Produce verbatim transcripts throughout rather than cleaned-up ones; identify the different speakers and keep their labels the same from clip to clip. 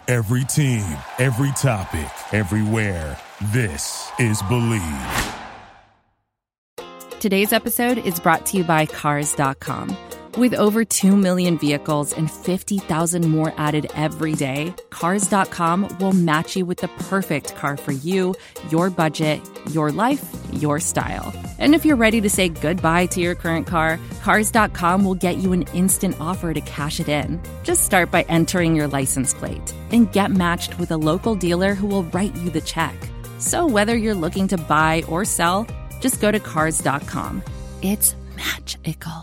Speaker 1: Every team, every topic, everywhere. This is Believe.
Speaker 2: Today's episode is brought to you by Cars dot com. With over two million vehicles and fifty thousand more added every day, Cars dot com will match you with the perfect car for you, your budget, your life, your style. And if you're ready to say goodbye to your current car, Cars dot com will get you an instant offer to cash it in. Just start by entering your license plate and get matched with a local dealer who will write you the check. So whether you're looking to buy or sell, just go to Cars dot com. It's magical.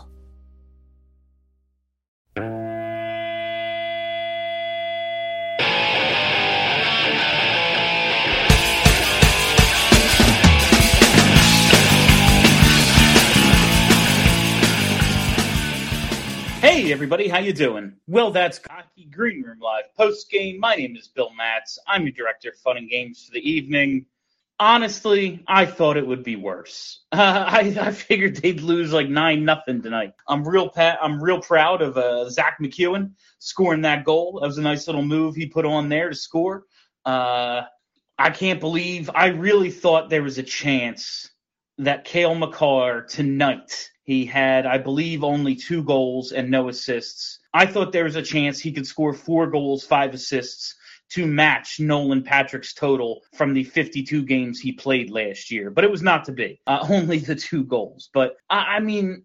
Speaker 3: Hey everybody, how you doing? Well, that's Cocky Green Room Live post game. My name is Bill Matz. I'm your director of fun and games for the evening. Honestly, I thought it would be worse. Uh, I, I figured they'd lose like nine nothing tonight. I'm real pa- I'm real proud of uh, Zach McEwen scoring that goal. That was a nice little move he put on there to score. Uh, I can't believe I really thought there was a chance that Cale Makar tonight. He had, I believe, only two goals and no assists. I thought there was a chance he could score four goals, five assists to match Nolan Patrick's total from the fifty-two games he played last year. But it was not to be. Uh, only the two goals. But, I, I mean,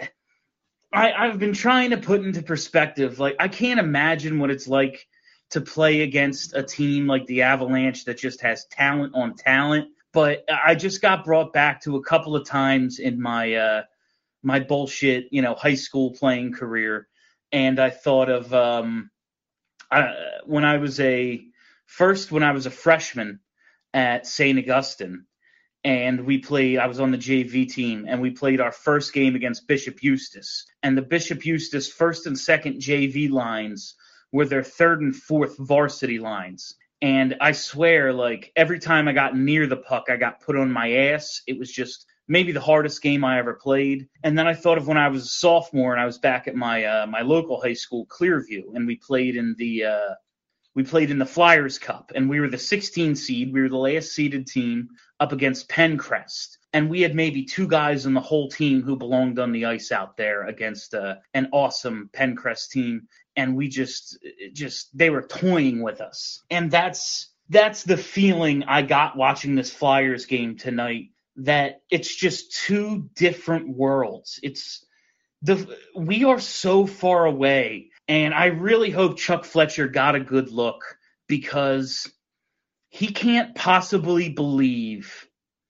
Speaker 3: I, I've been trying to put into perspective, like, I can't imagine what it's like to play against a team like the Avalanche that just has talent on talent. But I just got brought back to a couple of times in my uh, my bullshit, you know, high school playing career, and I thought of um, I, when I was a first when I was a freshman at Saint Augustine, and we played. I was on the J V team, and we played our first game against Bishop Eustace, and the Bishop Eustace first and second J V lines were their third and fourth varsity lines. And I swear, like, every time I got near the puck, I got put on my ass. It was just maybe the hardest game I ever played. And then I thought of when I was a sophomore and I was back at my uh, my local high school, Clearview, and we played in the uh, we played in the Flyers Cup, and we were the sixteen seed. We were the last seeded team up against Pencrest, and we had maybe two guys on the whole team who belonged on the ice out there against uh, an awesome Pencrest team. And we just, just, they were toying with us. And that's, that's the feeling I got watching this Flyers game tonight, that it's just two different worlds. It's the, we are so far away. And I really hope Chuck Fletcher got a good look, because he can't possibly believe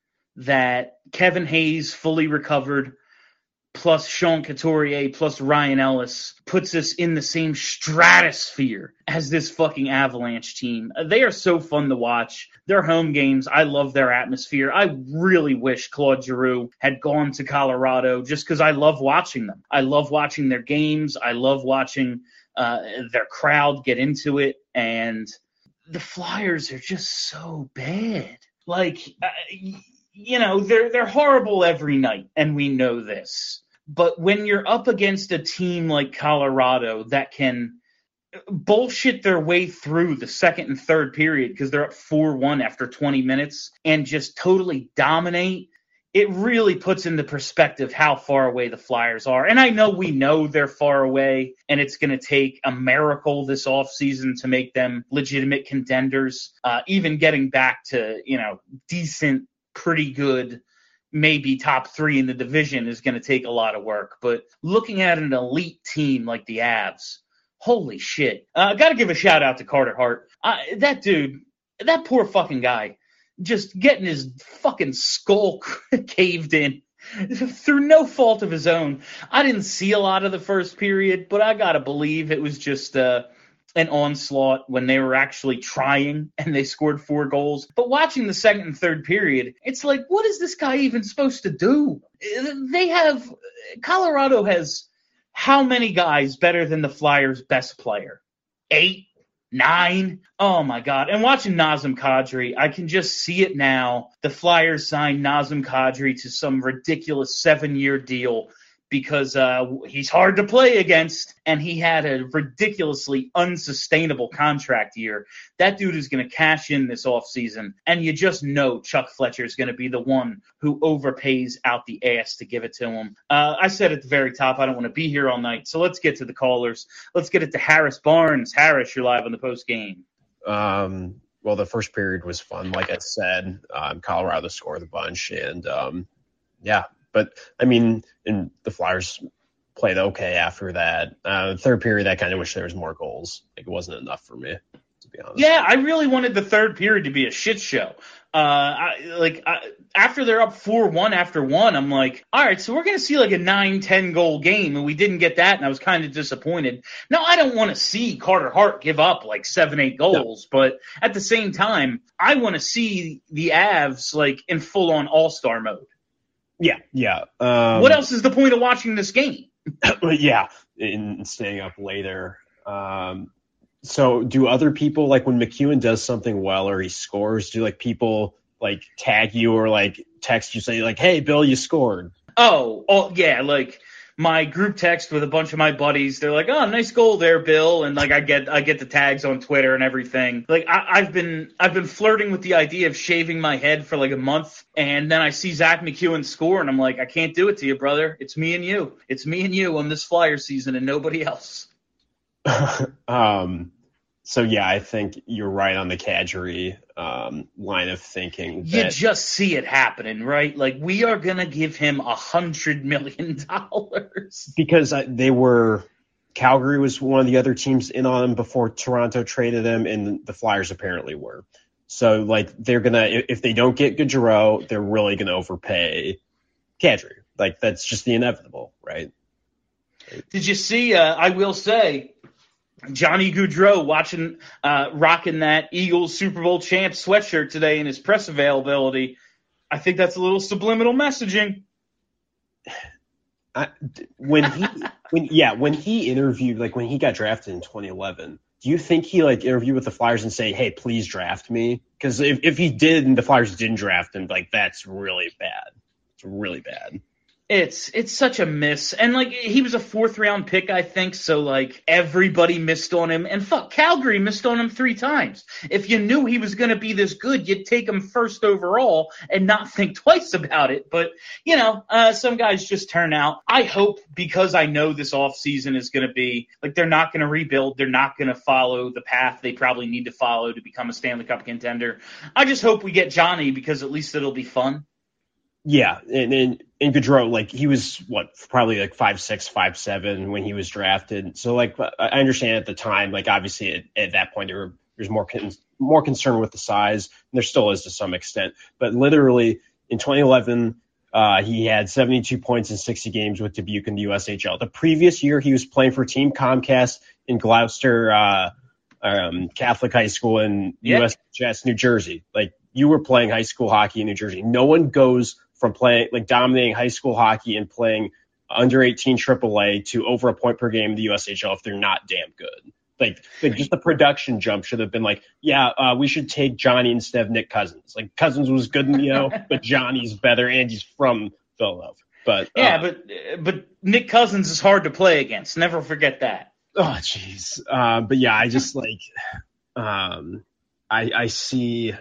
Speaker 3: that Kevin Hayes fully recovered plus Sean Couturier, plus Ryan Ellis, puts us in the same stratosphere as this fucking Avalanche team. They are so fun to watch. Their home games, I love their atmosphere. I really wish Claude Giroux had gone to Colorado, just because I love watching them. I love watching their games. I love watching uh, their crowd get into it. And the Flyers are just so bad. Like, uh, you know, they're they're horrible every night, and we know this. But when you're up against a team like Colorado that can bullshit their way through the second and third period because they're up four one after twenty minutes and just totally dominate, it really puts into perspective how far away the Flyers are. And I know we know they're far away, and it's going to take a miracle this offseason to make them legitimate contenders, uh, even getting back to, you know, decent, pretty good, maybe top three in the division is going to take a lot of work. But looking at an elite team like the Avs, holy shit. I uh, got to give a shout out to Carter Hart. Uh, that dude, that poor fucking guy, just getting his fucking skull caved in through no fault of his own. I didn't see a lot of the first period, but I got to believe it was just uh, an onslaught when they were actually trying and they scored four goals. But watching the second and third period, it's like, what is this guy even supposed to do? They have – Colorado has how many guys better than the Flyers' best player? Eight? Nine? Oh, my God. And watching Nazem Kadri, I can just see it now. The Flyers signed Nazem Kadri to some ridiculous seven-year deal because uh, he's hard to play against, and he had a ridiculously unsustainable contract year. That dude is going to cash in this offseason, and you just know Chuck Fletcher is going to be the one who overpays out the ass to give it to him. Uh, I said at the very top, I don't want to be here all night, so let's get to the callers. Let's get it to Harris Barnes. Harris, you're live on the post game.
Speaker 4: Um, well, the first period was fun. Like I said, um, Colorado scored a bunch, and um, yeah, but I mean, and the Flyers played okay after that. Uh, third period, I kind of wish there was more goals. Like, it wasn't enough for me, to be honest.
Speaker 3: Yeah, I really wanted the third period to be a shit show. Uh, I, like I, after they're up four one after one, I'm like, all right, so we're going to see like a nine ten goal game, and we didn't get that, and I was kind of disappointed. Now, I don't want to see Carter Hart give up like seven, eight goals, no. But at the same time, I want to see the Avs like in full-on all-star mode.
Speaker 4: Yeah, yeah. Um,
Speaker 3: what else is the point of watching this game?
Speaker 4: yeah, and staying up later. Um, so do other people, like when McEwen does something well or he scores, do like people like tag you or like text you say like, hey, Bill, you scored?
Speaker 3: Oh, oh yeah, like my group text with a bunch of my buddies, they're like, oh, nice goal there, Bill. And like I get I get the tags on Twitter and everything. Like I, I've been I've been flirting with the idea of shaving my head for like a month, and then I see Zach McEwen score and I'm like, I can't do it to you, brother. It's me and you. It's me and you on this Flyer season and nobody else.
Speaker 4: um so yeah, I think you're right on the Kadri um line of thinking.
Speaker 3: That... You just see it happening, right? Like, we are gonna give him a hundred million dollars
Speaker 4: because uh, they were Calgary was one of the other teams in on him before Toronto traded him, and the Flyers apparently were. So like they're gonna, if they don't get Gaudreau, they're really gonna overpay Kadri. Like, that's just the inevitable, right?
Speaker 3: Did you see? Uh, I will say, Johnny Gaudreau watching, uh, rocking that Eagles Super Bowl champ sweatshirt today in his press availability. I think that's a little subliminal messaging.
Speaker 4: I, when he, when yeah, when he interviewed, like when he got drafted in twenty eleven, do you think he like interviewed with the Flyers and say, "Hey, please draft me"? Because if if he did and the Flyers didn't draft him, like that's really bad. It's really bad.
Speaker 3: It's it's such a miss. And, like, he was a fourth-round pick, I think, so, like, everybody missed on him. And, fuck, Calgary missed on him three times. If you knew he was going to be this good, you'd take him first overall and not think twice about it. But, you know, uh, some guys just turn out. I hope, because I know this offseason is going to be, like, they're not going to rebuild. They're not going to follow the path they probably need to follow to become a Stanley Cup contender. I just hope we get Johnny, because at least it'll be fun.
Speaker 4: Yeah, and and, and Gaudreau, like, he was, what, probably like five six, five seven when he was drafted. So, like, I understand at the time, like, obviously at, at that point there were, there's more con- more concern with the size, and there still is to some extent. But literally in twenty eleven, uh, he had seventy-two points in sixty games with Dubuque in the U S H L. The previous year, he was playing for Team Comcast in Gloucester uh, um, Catholic High School in yeah. U S H S, New Jersey. Like, you were playing high school hockey in New Jersey. No one goes from playing, like, dominating high school hockey and playing under eighteen triple A to over a point per game in the U S H L if they're not damn good. Like, like just the production jump should have been like, yeah, uh, we should take Johnny instead of Nick Cousins. Like, Cousins was good, you know, but Johnny's better, and he's from Philadelphia. But
Speaker 3: yeah,
Speaker 4: uh,
Speaker 3: but but Nick Cousins is hard to play against. Never forget that.
Speaker 4: Oh, jeez. Uh, but yeah, I just like, um, I I see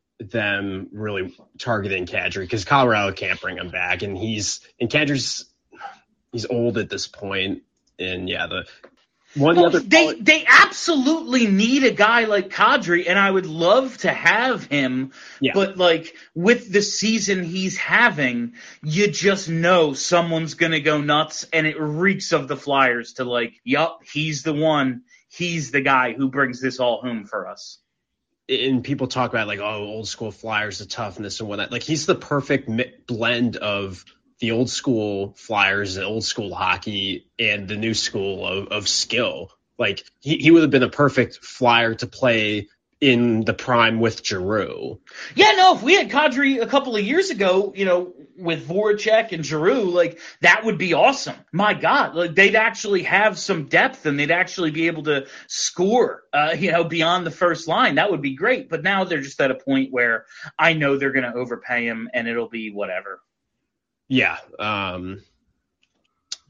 Speaker 4: them really targeting Kadri because Colorado can't bring him back, and he's and Kadri's he's old at this point, and yeah, the one
Speaker 3: well,
Speaker 4: the other
Speaker 3: they they absolutely need a guy like Kadri, and I would love to have him,
Speaker 4: yeah.
Speaker 3: But like with the season he's having, you just know someone's gonna go nuts, and it reeks of the Flyers to like, yup, he's the one, he's the guy who brings this all home for us.
Speaker 4: And people talk about like, oh, old school Flyers, the toughness and whatnot. Like, he's the perfect mi- blend of the old school Flyers, the old school hockey, and the new school of, of skill. Like, he, he would have been a perfect Flyer to play in the prime with Giroux.
Speaker 3: Yeah, no, if we had Kadri a couple of years ago, you know, with Voracek and Giroux, like, that would be awesome. My God, like, they'd actually have some depth, and they'd actually be able to score, uh, you know, beyond the first line. That would be great. But now they're just at a point where I know they're going to overpay him, and it'll be whatever.
Speaker 4: Yeah. Um,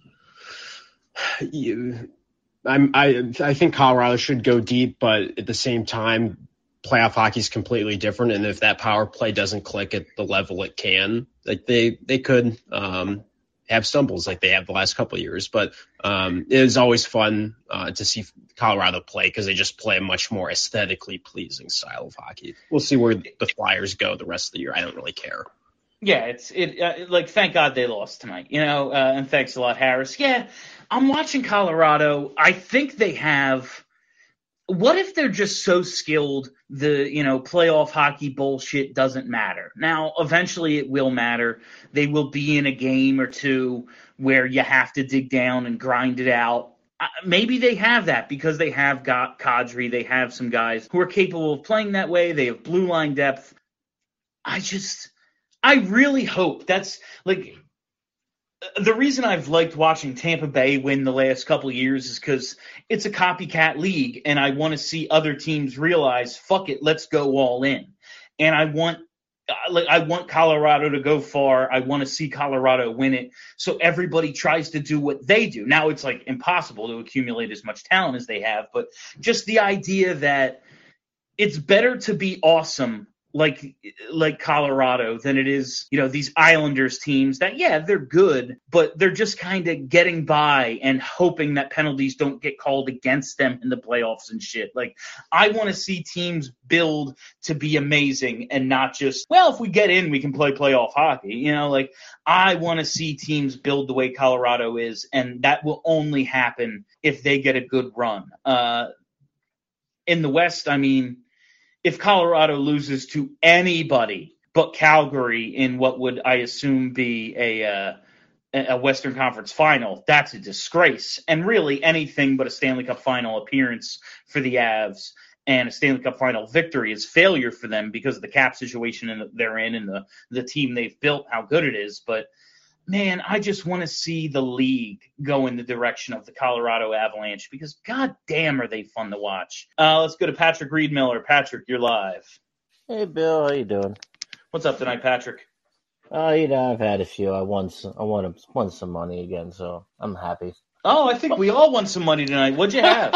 Speaker 4: You, I'm, I I think Colorado should go deep, but at the same time, playoff hockey is completely different. And if that power play doesn't click at the level it can, like they they could um, have stumbles like they have the last couple of years. But um, it is always fun uh, to see Colorado play because they just play a much more aesthetically pleasing style of hockey. We'll see where the Flyers go the rest of the year. I don't really care.
Speaker 3: Yeah, it's it uh, like thank God they lost tonight, you know, uh, and thanks a lot, Harris. Yeah, I'm watching Colorado. I think they have. What if they're just so skilled the, you know, playoff hockey bullshit doesn't matter? Now, eventually it will matter. They will be in a game or two where you have to dig down and grind it out. Uh, maybe they have that because they have got Kadri. They have some guys who are capable of playing that way. They have blue line depth. I just, I really hope that's like the reason I've liked watching Tampa Bay win the last couple of years is because it's a copycat league, and I want to see other teams realize, fuck it, let's go all in. And I want, like, I want Colorado to go far. I want to see Colorado win it. So everybody tries to do what they do. Now it's like impossible to accumulate as much talent as they have, but just the idea that it's better to be awesome like like Colorado than it is, you know, these Islanders teams that, yeah, they're good, but they're just kind of getting by and hoping that penalties don't get called against them in the playoffs and shit. Like, I want to see teams build to be amazing and not just, well, if we get in, we can play playoff hockey. You know, like, I want to see teams build the way Colorado is, and that will only happen if they get a good run. Uh, in the West, I mean, if Colorado loses to anybody but Calgary in what would, I assume, be a uh, a Western Conference final, that's a disgrace. And really anything but a Stanley Cup final appearance for the Avs and a Stanley Cup final victory is failure for them because of the cap situation they're in and the, the team they've built, how good it is. But, man, I just want to see the league go in the direction of the Colorado Avalanche because, god damn, are they fun to watch. Uh, let's go to Patrick Reed-Miller. Patrick, you're live.
Speaker 5: Hey, Bill. How you doing?
Speaker 3: What's up tonight, Patrick?
Speaker 5: Oh, uh, you know, I've had a few. I won some, I won, won some money again, so I'm happy.
Speaker 3: Oh, I think we all won some money tonight. What'd you have?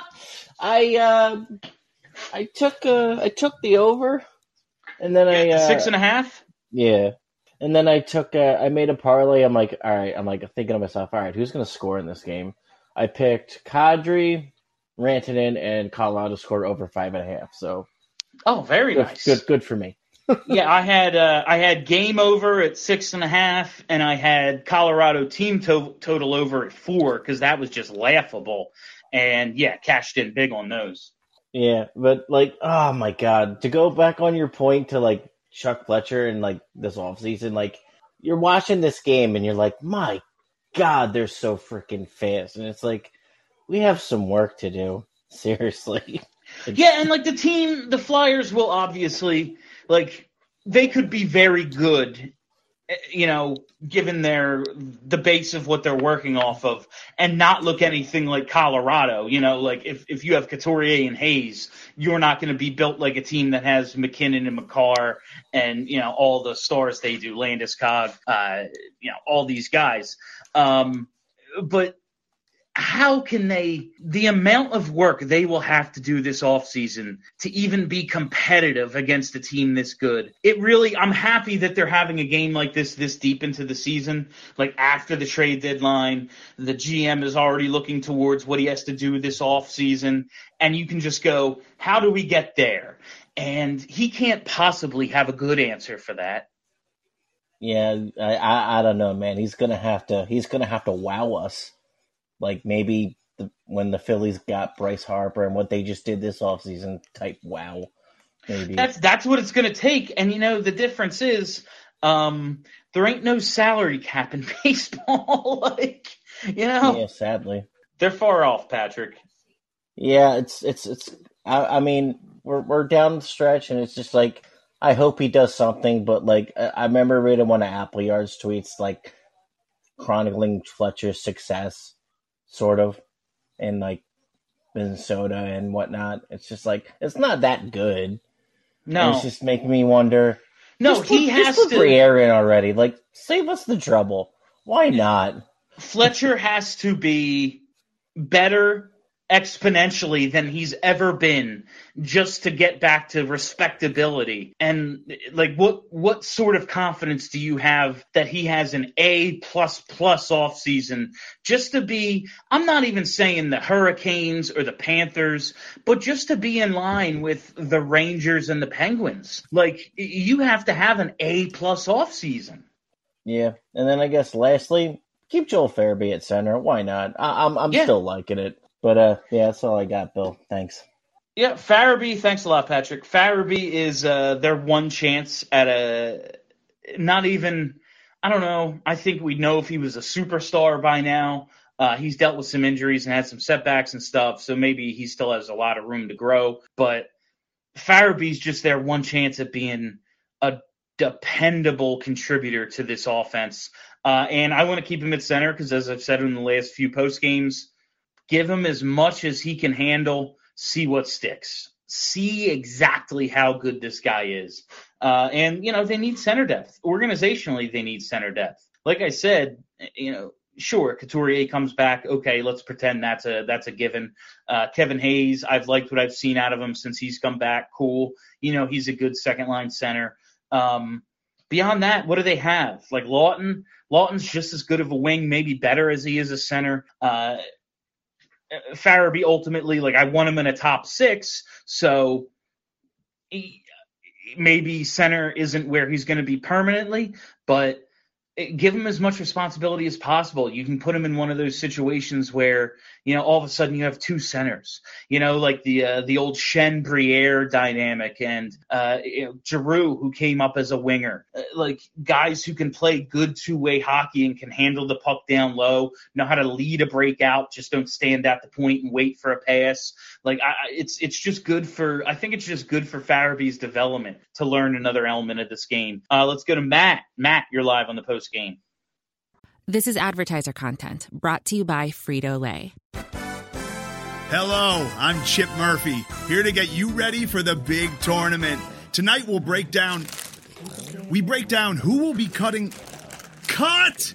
Speaker 5: I uh, I took uh, I took the over, and then I uh,
Speaker 3: six and a half.
Speaker 5: Yeah. And then I took, uh, I made a parlay. I'm like, all right. I'm like thinking to myself, all right, who's going to score in this game? I picked Kadri, Rantanen, and Colorado scored over five and a half. So,
Speaker 3: oh, very
Speaker 5: good,
Speaker 3: nice.
Speaker 5: Good, good for me.
Speaker 3: yeah, I had uh, I had game over at six and a half, and I had Colorado team to- total over at four because that was just laughable. And yeah, cashed in big on those.
Speaker 5: Yeah, but like, oh my god, to go back on your point to like Chuck Fletcher and like this offseason, like you're watching this game and you're like, my god, they're so freaking fast, and it's like we have some work to do. Seriously.
Speaker 3: Yeah, and like the team, the Flyers will obviously, like, they could be very good, you know, given their the base of what they're working off of, and not look anything like Colorado. You know, like if, if you have Couturier and Hayes, you're not going to be built like a team that has McKinnon and Makar and, you know, all the stars they do, Landeskog, uh, you know, all these guys. Um, but how can they – the amount of work they will have to do this offseason to even be competitive against a team this good. It really – I'm happy that they're having a game like this this deep into the season, like after the trade deadline. The G M is already looking towards what he has to do this offseason, and you can just go, how do we get there? And he can't possibly have a good answer for that.
Speaker 5: Yeah, I, I, I don't know, man. He's gonna have to. He's gonna have to wow us. Like maybe the, when the Phillies got Bryce Harper and what they just did this offseason type wow. Maybe.
Speaker 3: That's that's what it's going to take. And, you know, the difference is um, there ain't no salary cap in baseball. like, you know.
Speaker 5: Yeah, sadly.
Speaker 3: They're far off, Patrick.
Speaker 5: Yeah, it's, it's, it's, I, I mean, we're, we're down the stretch and it's just like, I hope he does something. But like, I, I remember reading one of Appleyard's tweets, like chronicling Fletcher's success. Sort of, in like Minnesota and whatnot. It's just like it's not that good.
Speaker 3: No,
Speaker 5: and it's just making me wonder.
Speaker 3: No,
Speaker 5: just
Speaker 3: he
Speaker 5: put,
Speaker 3: has
Speaker 5: just put
Speaker 3: to.
Speaker 5: Briere in already. Like, save us the trouble. Why not?
Speaker 3: Fletcher has to be better exponentially than he's ever been just to get back to respectability. And like, what what sort of confidence do you have that he has an A plus plus off season just to be, I'm not even saying the Hurricanes or the Panthers, but just to be in line with the Rangers and the Penguins? Like, you have to have an A plus off season.
Speaker 5: Yeah. And then I guess lastly, keep Joel Farabee at center. Why not? I, I'm I'm
Speaker 3: Yeah.
Speaker 5: still liking it. But, uh, yeah, that's all I got, Bill. Thanks.
Speaker 3: Yeah, Farabee, thanks a lot, Patrick. Farabee is uh, their one chance at a – not even – I don't know. I think we'd know if he was a superstar by now. Uh, he's dealt with some injuries and had some setbacks and stuff, so maybe he still has a lot of room to grow. But Farabee's just their one chance at being a dependable contributor to this offense. Uh, and I want to keep him at center because, as I've said in the last few post games, give him as much as he can handle, see what sticks. See exactly how good this guy is. Uh, and, you know, they need center depth. Organizationally, they need center depth. Like I said, you know, sure, Couturier comes back. Okay, let's pretend that's a that's a given. Uh, Kevin Hayes, I've liked what I've seen out of him since he's come back. Cool. You know, he's a good second-line center. Um, beyond that, what do they have? Like Lawton? Lawton's just as good of a wing, maybe better as he is a center. Uh Farabee ultimately, like, I want him in a top six, so he, maybe center isn't where he's going to be permanently, but give him as much responsibility as possible. You can put him in one of those situations where, you know, all of a sudden you have two centers, you know, like the uh, the old Shen Briere dynamic and uh, you know, Giroux, who came up as a winger, uh, like guys who can play good two-way hockey and can handle the puck down low, know how to lead a breakout, just don't stand at the point and wait for a pass. Like I, it's it's just good for, I think it's just good for Farabee's development to learn another element of this game. Uh, let's go to Matt. Matt, you're live on the post game.
Speaker 2: This is advertiser content brought to you by Frito-Lay.
Speaker 6: Hello, I'm Chip Murphy, here to get you ready for the big tournament. Tonight we'll break down, we break down who will be cutting, cut!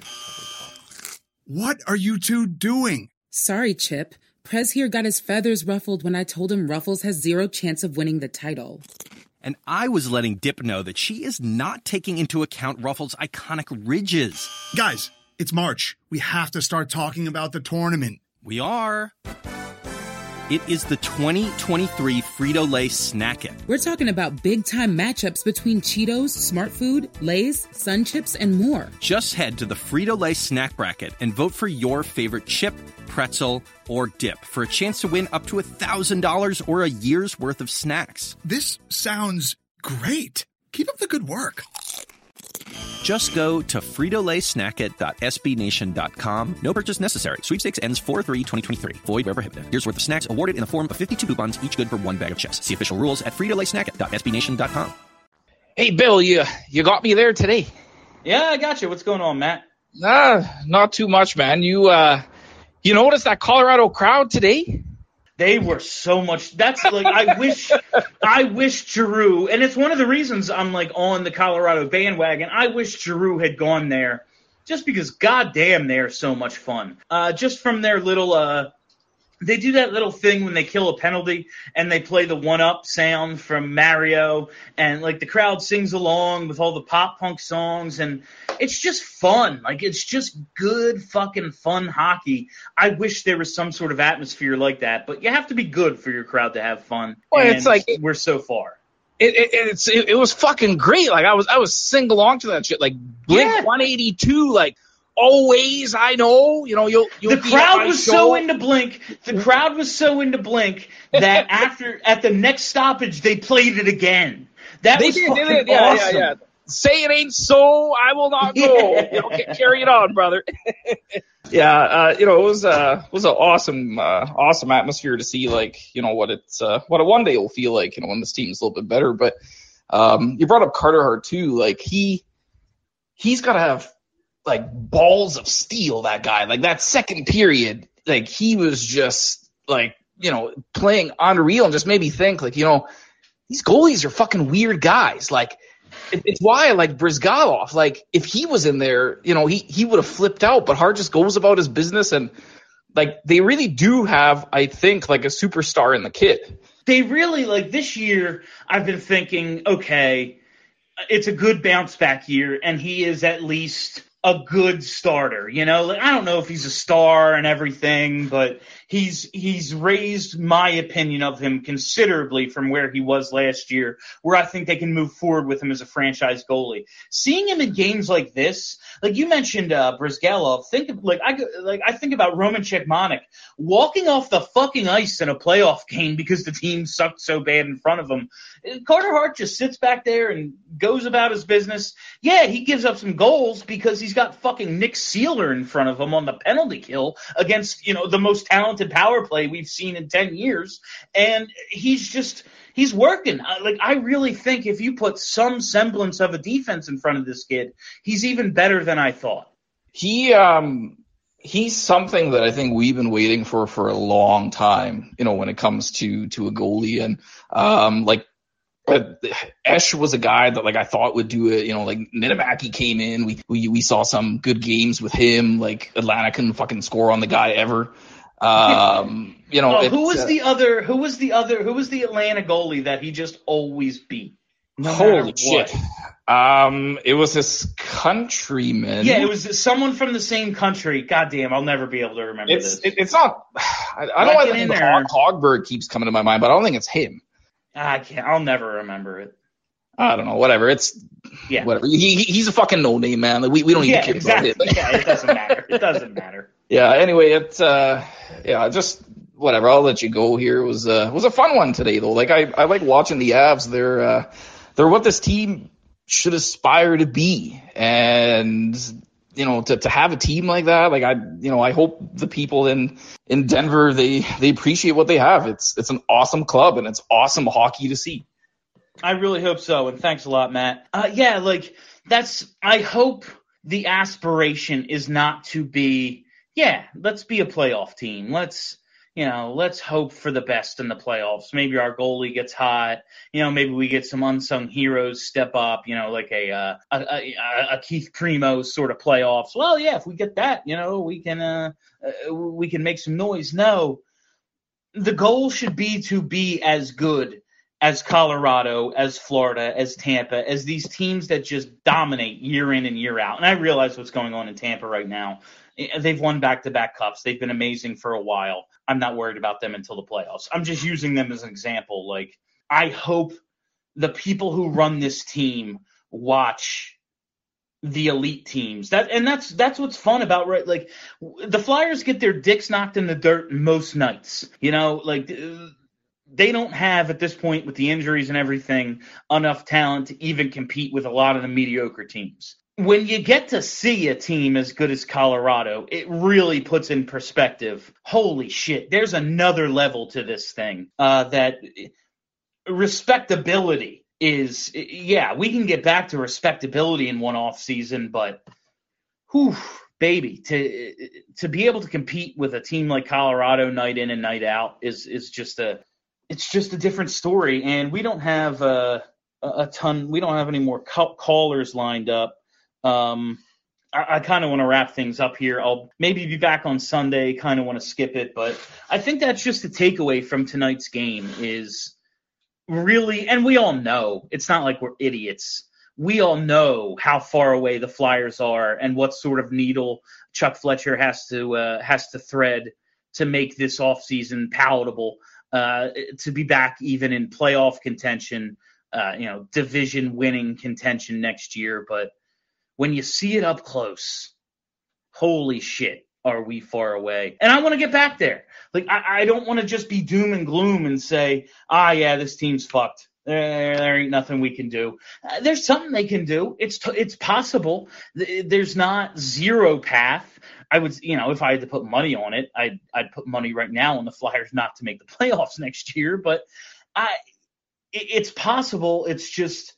Speaker 6: What are you two doing?
Speaker 7: Sorry, Chip. Prez here got his feathers ruffled when I told him Ruffles has zero chance of winning the title.
Speaker 8: And I was letting Dip know that she is not taking into account Ruffles' iconic ridges.
Speaker 6: Guys, it's March. We have to start talking about the tournament.
Speaker 8: We are. It is the twenty twenty-three Frito-Lay Snack It.
Speaker 7: We're talking about big-time matchups between Cheetos, Smart Food, Lay's, Sun Chips, and more.
Speaker 8: Just head to the Frito-Lay Snack Bracket and vote for your favorite chip, pretzel, or dip for a chance to win up to one thousand dollars or a year's worth of snacks.
Speaker 6: This sounds great. Keep up the good work.
Speaker 8: Just go to Frito Lay Snack It dot S B Nation dot com. No purchase necessary. Sweepstakes ends four three twenty twenty-three. Void where prohibited. Here's worth of snacks awarded in the form of fifty-two coupons, each good for one bag of chips. See official rules at Frito Lay Snack It dot S B Nation dot com.
Speaker 9: Hey, Bill, you you got me there today.
Speaker 3: Yeah, I got you. What's going on, Matt?
Speaker 9: Nah, not too much, man. You uh, you noticed that Colorado crowd today?
Speaker 3: They were so much. That's like, I wish, I wish Giroux, and it's one of the reasons I'm like on the Colorado bandwagon. I wish Giroux had gone there, just because, goddamn, they're so much fun. Uh, just from their little, uh, they do that little thing when they kill a penalty, and they play the one-up sound from Mario, and like the crowd sings along with all the pop punk songs, and it's just fun. Like, it's just good fucking fun hockey. I wish there was some sort of atmosphere like that, but you have to be good for your crowd to have fun.
Speaker 9: Well,
Speaker 3: and
Speaker 9: it's like
Speaker 3: we're so far.
Speaker 9: It, it it's it, it was fucking great. Like I was I was sing along to that shit. Like Blink
Speaker 3: Yeah.
Speaker 9: one eighty-two. Like always, I know. You know, you'll you'll
Speaker 3: The
Speaker 9: be at
Speaker 3: crowd
Speaker 9: my
Speaker 3: was
Speaker 9: show.
Speaker 3: so into Blink. The crowd was so into Blink that after at the next stoppage they played it again. That
Speaker 9: They
Speaker 3: was
Speaker 9: did, they
Speaker 3: fucking
Speaker 9: did. Yeah,
Speaker 3: awesome.
Speaker 9: yeah, yeah. Say it ain't so, I will not go.
Speaker 3: Yeah.
Speaker 9: You know, ca- carry it on, brother. yeah, uh, you know, it was uh was an awesome, uh, awesome atmosphere to see. Like, you know, what it's uh, what a one day will feel like. You know, when this team's a little bit better. But um, you brought up Carter Hart too. Like he he's got to have like balls of steel. That guy, like that second period, like he was just like, you know, playing unreal and just made me think like, you know, these goalies are fucking weird guys. Like. it, it's why I like Brizgalov. Like, if he was in there, you know, he, he would have flipped out, but Hart just goes about his business. And, like, they really do have, I think, like a superstar in the kid.
Speaker 3: They really, like, this year, I've been thinking, okay, it's a good bounce back year, and he is at least a good starter. You know, like, I don't know if he's a star and everything, but he's he's raised my opinion of him considerably from where he was last year, where I think they can move forward with him as a franchise goalie. Seeing him in games like this, like you mentioned, uh, Brizgalov, think of, like I like I think about Roman Cechmanek walking off the fucking ice in a playoff game because the team sucked so bad in front of him. Carter Hart just sits back there and goes about his business. Yeah, he gives up some goals because he's got fucking Nick Seeler in front of him on the penalty kill against, you know, the most talented power play we've seen in ten years. And he's just, he's working. Like, I really think if you put some semblance of a defense in front of this kid, he's even better than I thought.
Speaker 9: He, um, he's something that I think we've been waiting for for a long time, you know, when it comes to, to a goalie. And, um, like, Uh, Esch was a guy that, like, I thought would do it. You know, like, Niedermaki came in. We, we we saw some good games with him. Like, Atlanta couldn't fucking score on the guy ever. Um, you know,
Speaker 3: oh, who was
Speaker 9: uh,
Speaker 3: the other? Who was the other? Who was the Atlanta goalie that he just always beat? No
Speaker 9: holy shit! Um, it was his countryman.
Speaker 3: Yeah, it was someone from the same country. Goddamn, I'll never be able to remember
Speaker 9: it's,
Speaker 3: this.
Speaker 9: It, it's not. I, I don't know why the Hog, Hogberg keeps coming to my mind, but I don't think it's him.
Speaker 3: I can't. I'll never remember it.
Speaker 9: I don't know. Whatever. It's
Speaker 3: yeah.
Speaker 9: Whatever. He, he's a fucking no name, man. Like, we we don't even
Speaker 3: yeah,
Speaker 9: care
Speaker 3: exactly.
Speaker 9: about it.
Speaker 3: yeah, it doesn't matter. It doesn't matter.
Speaker 9: Yeah. Anyway, it's uh, yeah, just whatever. I'll let you go. Here it was uh, was a fun one today though. Like I I like watching the Avs. They're uh, they're what this team should aspire to be, and you know, to to have a team like that, like I, you know, I hope the people in in Denver they they appreciate what they have. It's it's an awesome club and it's awesome hockey to see.
Speaker 3: I really hope so, and thanks a lot, Matt. Uh, yeah, like, that's – I hope the aspiration is not to be, yeah, let's be a playoff team. Let's, you know, let's hope for the best in the playoffs. Maybe our goalie gets hot. You know, maybe we get some unsung heroes step up, you know, like a uh, a, a, a Keith Primo sort of playoffs. Well, yeah, if we get that, you know, we can uh, uh, we can make some noise. No, the goal should be to be as good as Colorado, as Florida, as Tampa, as these teams that just dominate year in and year out. And I realize what's going on in Tampa right now. They've won back-to-back cups. They've been amazing for a while. I'm not worried about them until the playoffs. I'm just using them as an example. Like, I hope the people who run this team watch the elite teams. That and that's that's what's fun about, right? Like, the Flyers get their dicks knocked in the dirt most nights. You know, like, they don't have, at this point, with the injuries and everything, enough talent to even compete with a lot of the mediocre teams. When you get to see a team as good as Colorado, it really puts in perspective, holy shit, there's another level to this thing. Uh, that respectability is, yeah, we can get back to respectability in one off season, but whew, baby, to to be able to compete with a team like Colorado night in and night out is is just a it's just a different story. And we don't have uh, a ton, we don't have any more callers lined up. Um, I, I kind of want to wrap things up here. I'll maybe be back on Sunday, kind of want to skip it, but I think that's just the takeaway from tonight's game is really, and we all know, it's not like we're idiots. We all know how far away the Flyers are and what sort of needle Chuck Fletcher has to uh, has to thread to make this offseason palatable, uh, to be back even in playoff contention, uh, you know, division winning contention next year. But when you see it up close, holy shit, are we far away. And I want to get back there. Like, I, I don't want to just be doom and gloom and say, ah, yeah, this team's fucked. There, there ain't nothing we can do. Uh, there's something they can do. It's t- it's possible. There's not zero path. I would, you know, if I had to put money on it, I'd, I'd put money right now on the Flyers not to make the playoffs next year. But I, it, it's possible. It's just,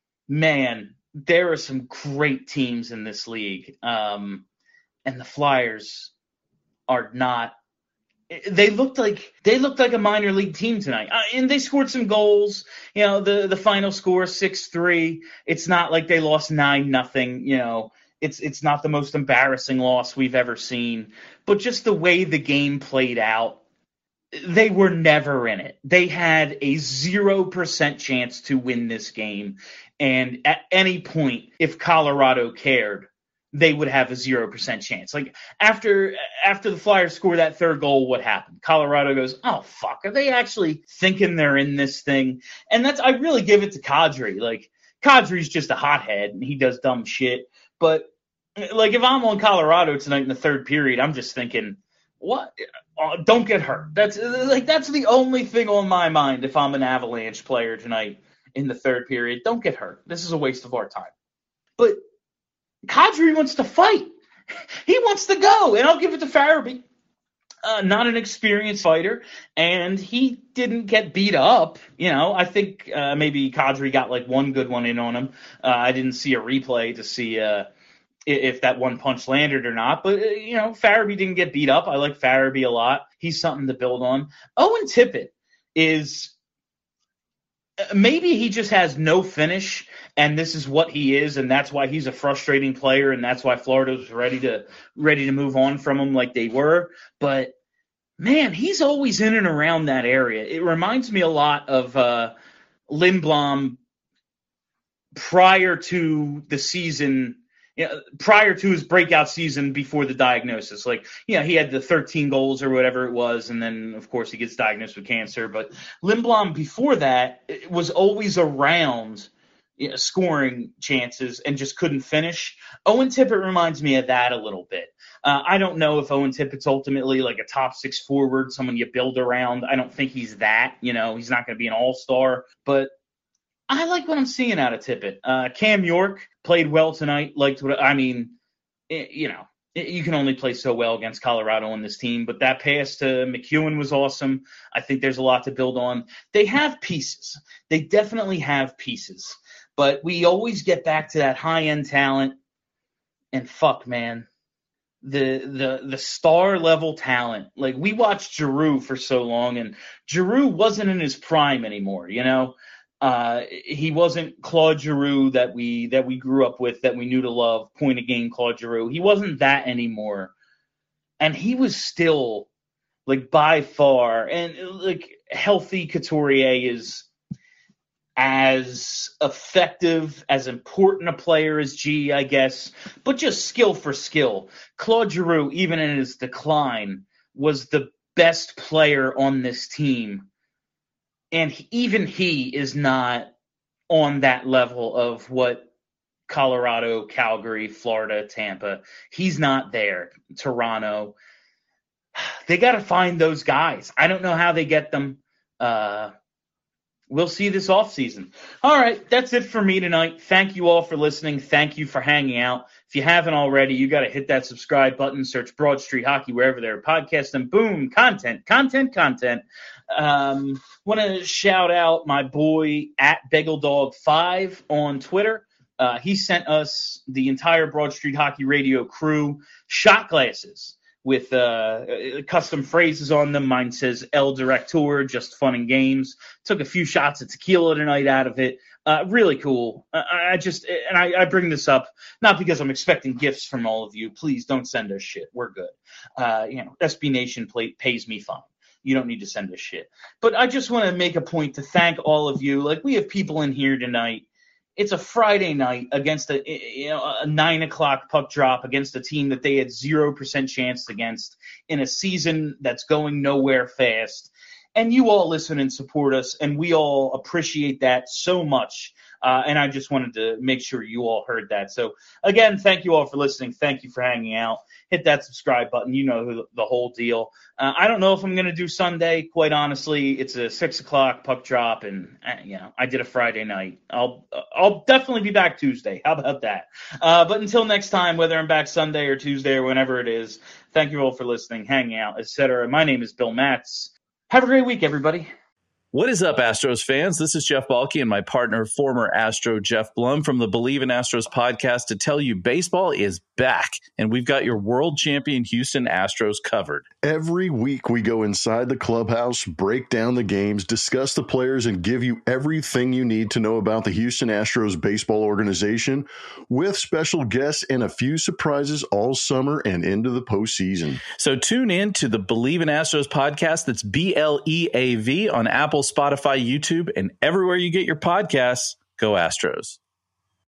Speaker 3: man, there are some great teams in this league, um, and the Flyers are not They looked like they looked like a minor league team tonight, uh, and they scored some goals. You know, the the final score six three. It's not like they lost nine nothing. You know, it's it's not the most embarrassing loss we've ever seen. But just the way the game played out, they were never in it. They had a zero percent chance to win this game, and at any point, if Colorado cared, they would have a zero percent chance. Like, after after the Flyers score that third goal, what happened? Colorado goes, oh, fuck, are they actually thinking they're in this thing? And that's, I really give it to Kadri. Like, Kadri's just a hothead, and he does dumb shit. But, like, if I'm on Colorado tonight in the third period, I'm just thinking, what? Oh, don't get hurt. That's, like, that's the only thing on my mind if I'm an Avalanche player tonight in the third period. Don't get hurt. This is a waste of our time. But Kadri wants to fight. He wants to go, and I'll give it to Farabee. Uh, not an experienced fighter, and he didn't get beat up. You know, I think uh, maybe Kadri got like one good one in on him. Uh, I didn't see a replay to see uh, if that one punch landed or not, but, uh, you know, Farabee didn't get beat up. I like Farabee a lot. He's something to build on. Owen Tippett is – maybe he just has no finish, and this is what he is, and that's why he's a frustrating player, and that's why Florida was ready to ready to move on from him like they were. But, man, he's always in and around that area. It reminds me a lot of uh, Lindblom prior to the season – you know, prior to his breakout season before the diagnosis. Like, you know, he had the thirteen goals or whatever it was, and then, of course, he gets diagnosed with cancer. But Lindblom, before that, was always around, you know, scoring chances and just couldn't finish. Owen Tippett reminds me of that a little bit. Uh, I don't know if Owen Tippett's ultimately like a top six forward, someone you build around. I don't think he's that. You know, he's not going to be an all-star. But I like what I'm seeing out of Tippett. Uh, Cam York played well tonight. Liked what I mean. It, you know, it, you can only play so well against Colorado on this team. But that pass to McEwen was awesome. I think there's a lot to build on. They have pieces. They definitely have pieces. But we always get back to that high-end talent. And fuck, man, the the the star level talent. Like, we watched Giroux for so long, and Giroux wasn't in his prime anymore. You know. Uh, he wasn't Claude Giroux that we that we grew up with, that we knew to love, point of game Claude Giroux. He wasn't that anymore, and he was still like by far and like healthy. Couturier is as effective, as important a player as G, I guess, but just skill for skill. Claude Giroux, even in his decline, was the best player on this team. And he, even he is not on that level of what Colorado, Calgary, Florida, Tampa. He's not there. Toronto. They got to find those guys. I don't know how they get them. Uh, we'll see this offseason. All right, that's it for me tonight. Thank you all for listening. Thank you for hanging out. If you haven't already, you got to hit that subscribe button, search Broad Street Hockey wherever there are podcasts, and boom, content, content, content. Um, want to shout out my boy at Bagel Dog five on Twitter. Uh, he sent us, the entire Broad Street Hockey Radio crew, shot glasses with uh, custom phrases on them. Mine says El Director, just fun and games. Took a few shots of tequila tonight out of it. Uh, really cool. Uh, I just, and I, I bring this up not because I'm expecting gifts from all of you. Please don't send us shit. We're good. Uh, you know, S B Nation play, pays me fine. You don't need to send us shit. But I just want to make a point to thank all of you. Like, we have people in here tonight. It's a Friday night against a, you know, a nine o'clock puck drop against a team that they had zero percent chance against in a season that's going nowhere fast. And you all listen and support us, and we all appreciate that so much. Uh, and I just wanted to make sure you all heard that. So, again, thank you all for listening. Thank you for hanging out. Hit that subscribe button. You know who, the whole deal. Uh, I don't know if I'm going to do Sunday, quite honestly. It's a six o'clock puck drop, and, uh, you know, I did a Friday night. I'll I'll definitely be back Tuesday. How about that? Uh, but until next time, whether I'm back Sunday or Tuesday or whenever it is, thank you all for listening, hanging out, et cetera. My name is Bill Matz. Have a great week, everybody.
Speaker 10: What is up, Astros fans? This is Jeff Balke and my partner, former Astro Jeff Blum from the Believe in Astros podcast to tell you baseball is back, and we've got your world champion Houston Astros covered.
Speaker 11: Every week we go inside the clubhouse, break down the games, discuss the players, and give you everything you need to know about the Houston Astros baseball organization with special guests and a few surprises all summer and into the postseason.
Speaker 10: So tune in to the Believe in Astros podcast. That's B L E A V on Apple, Spotify, YouTube, and everywhere you get your podcasts. Go Astros.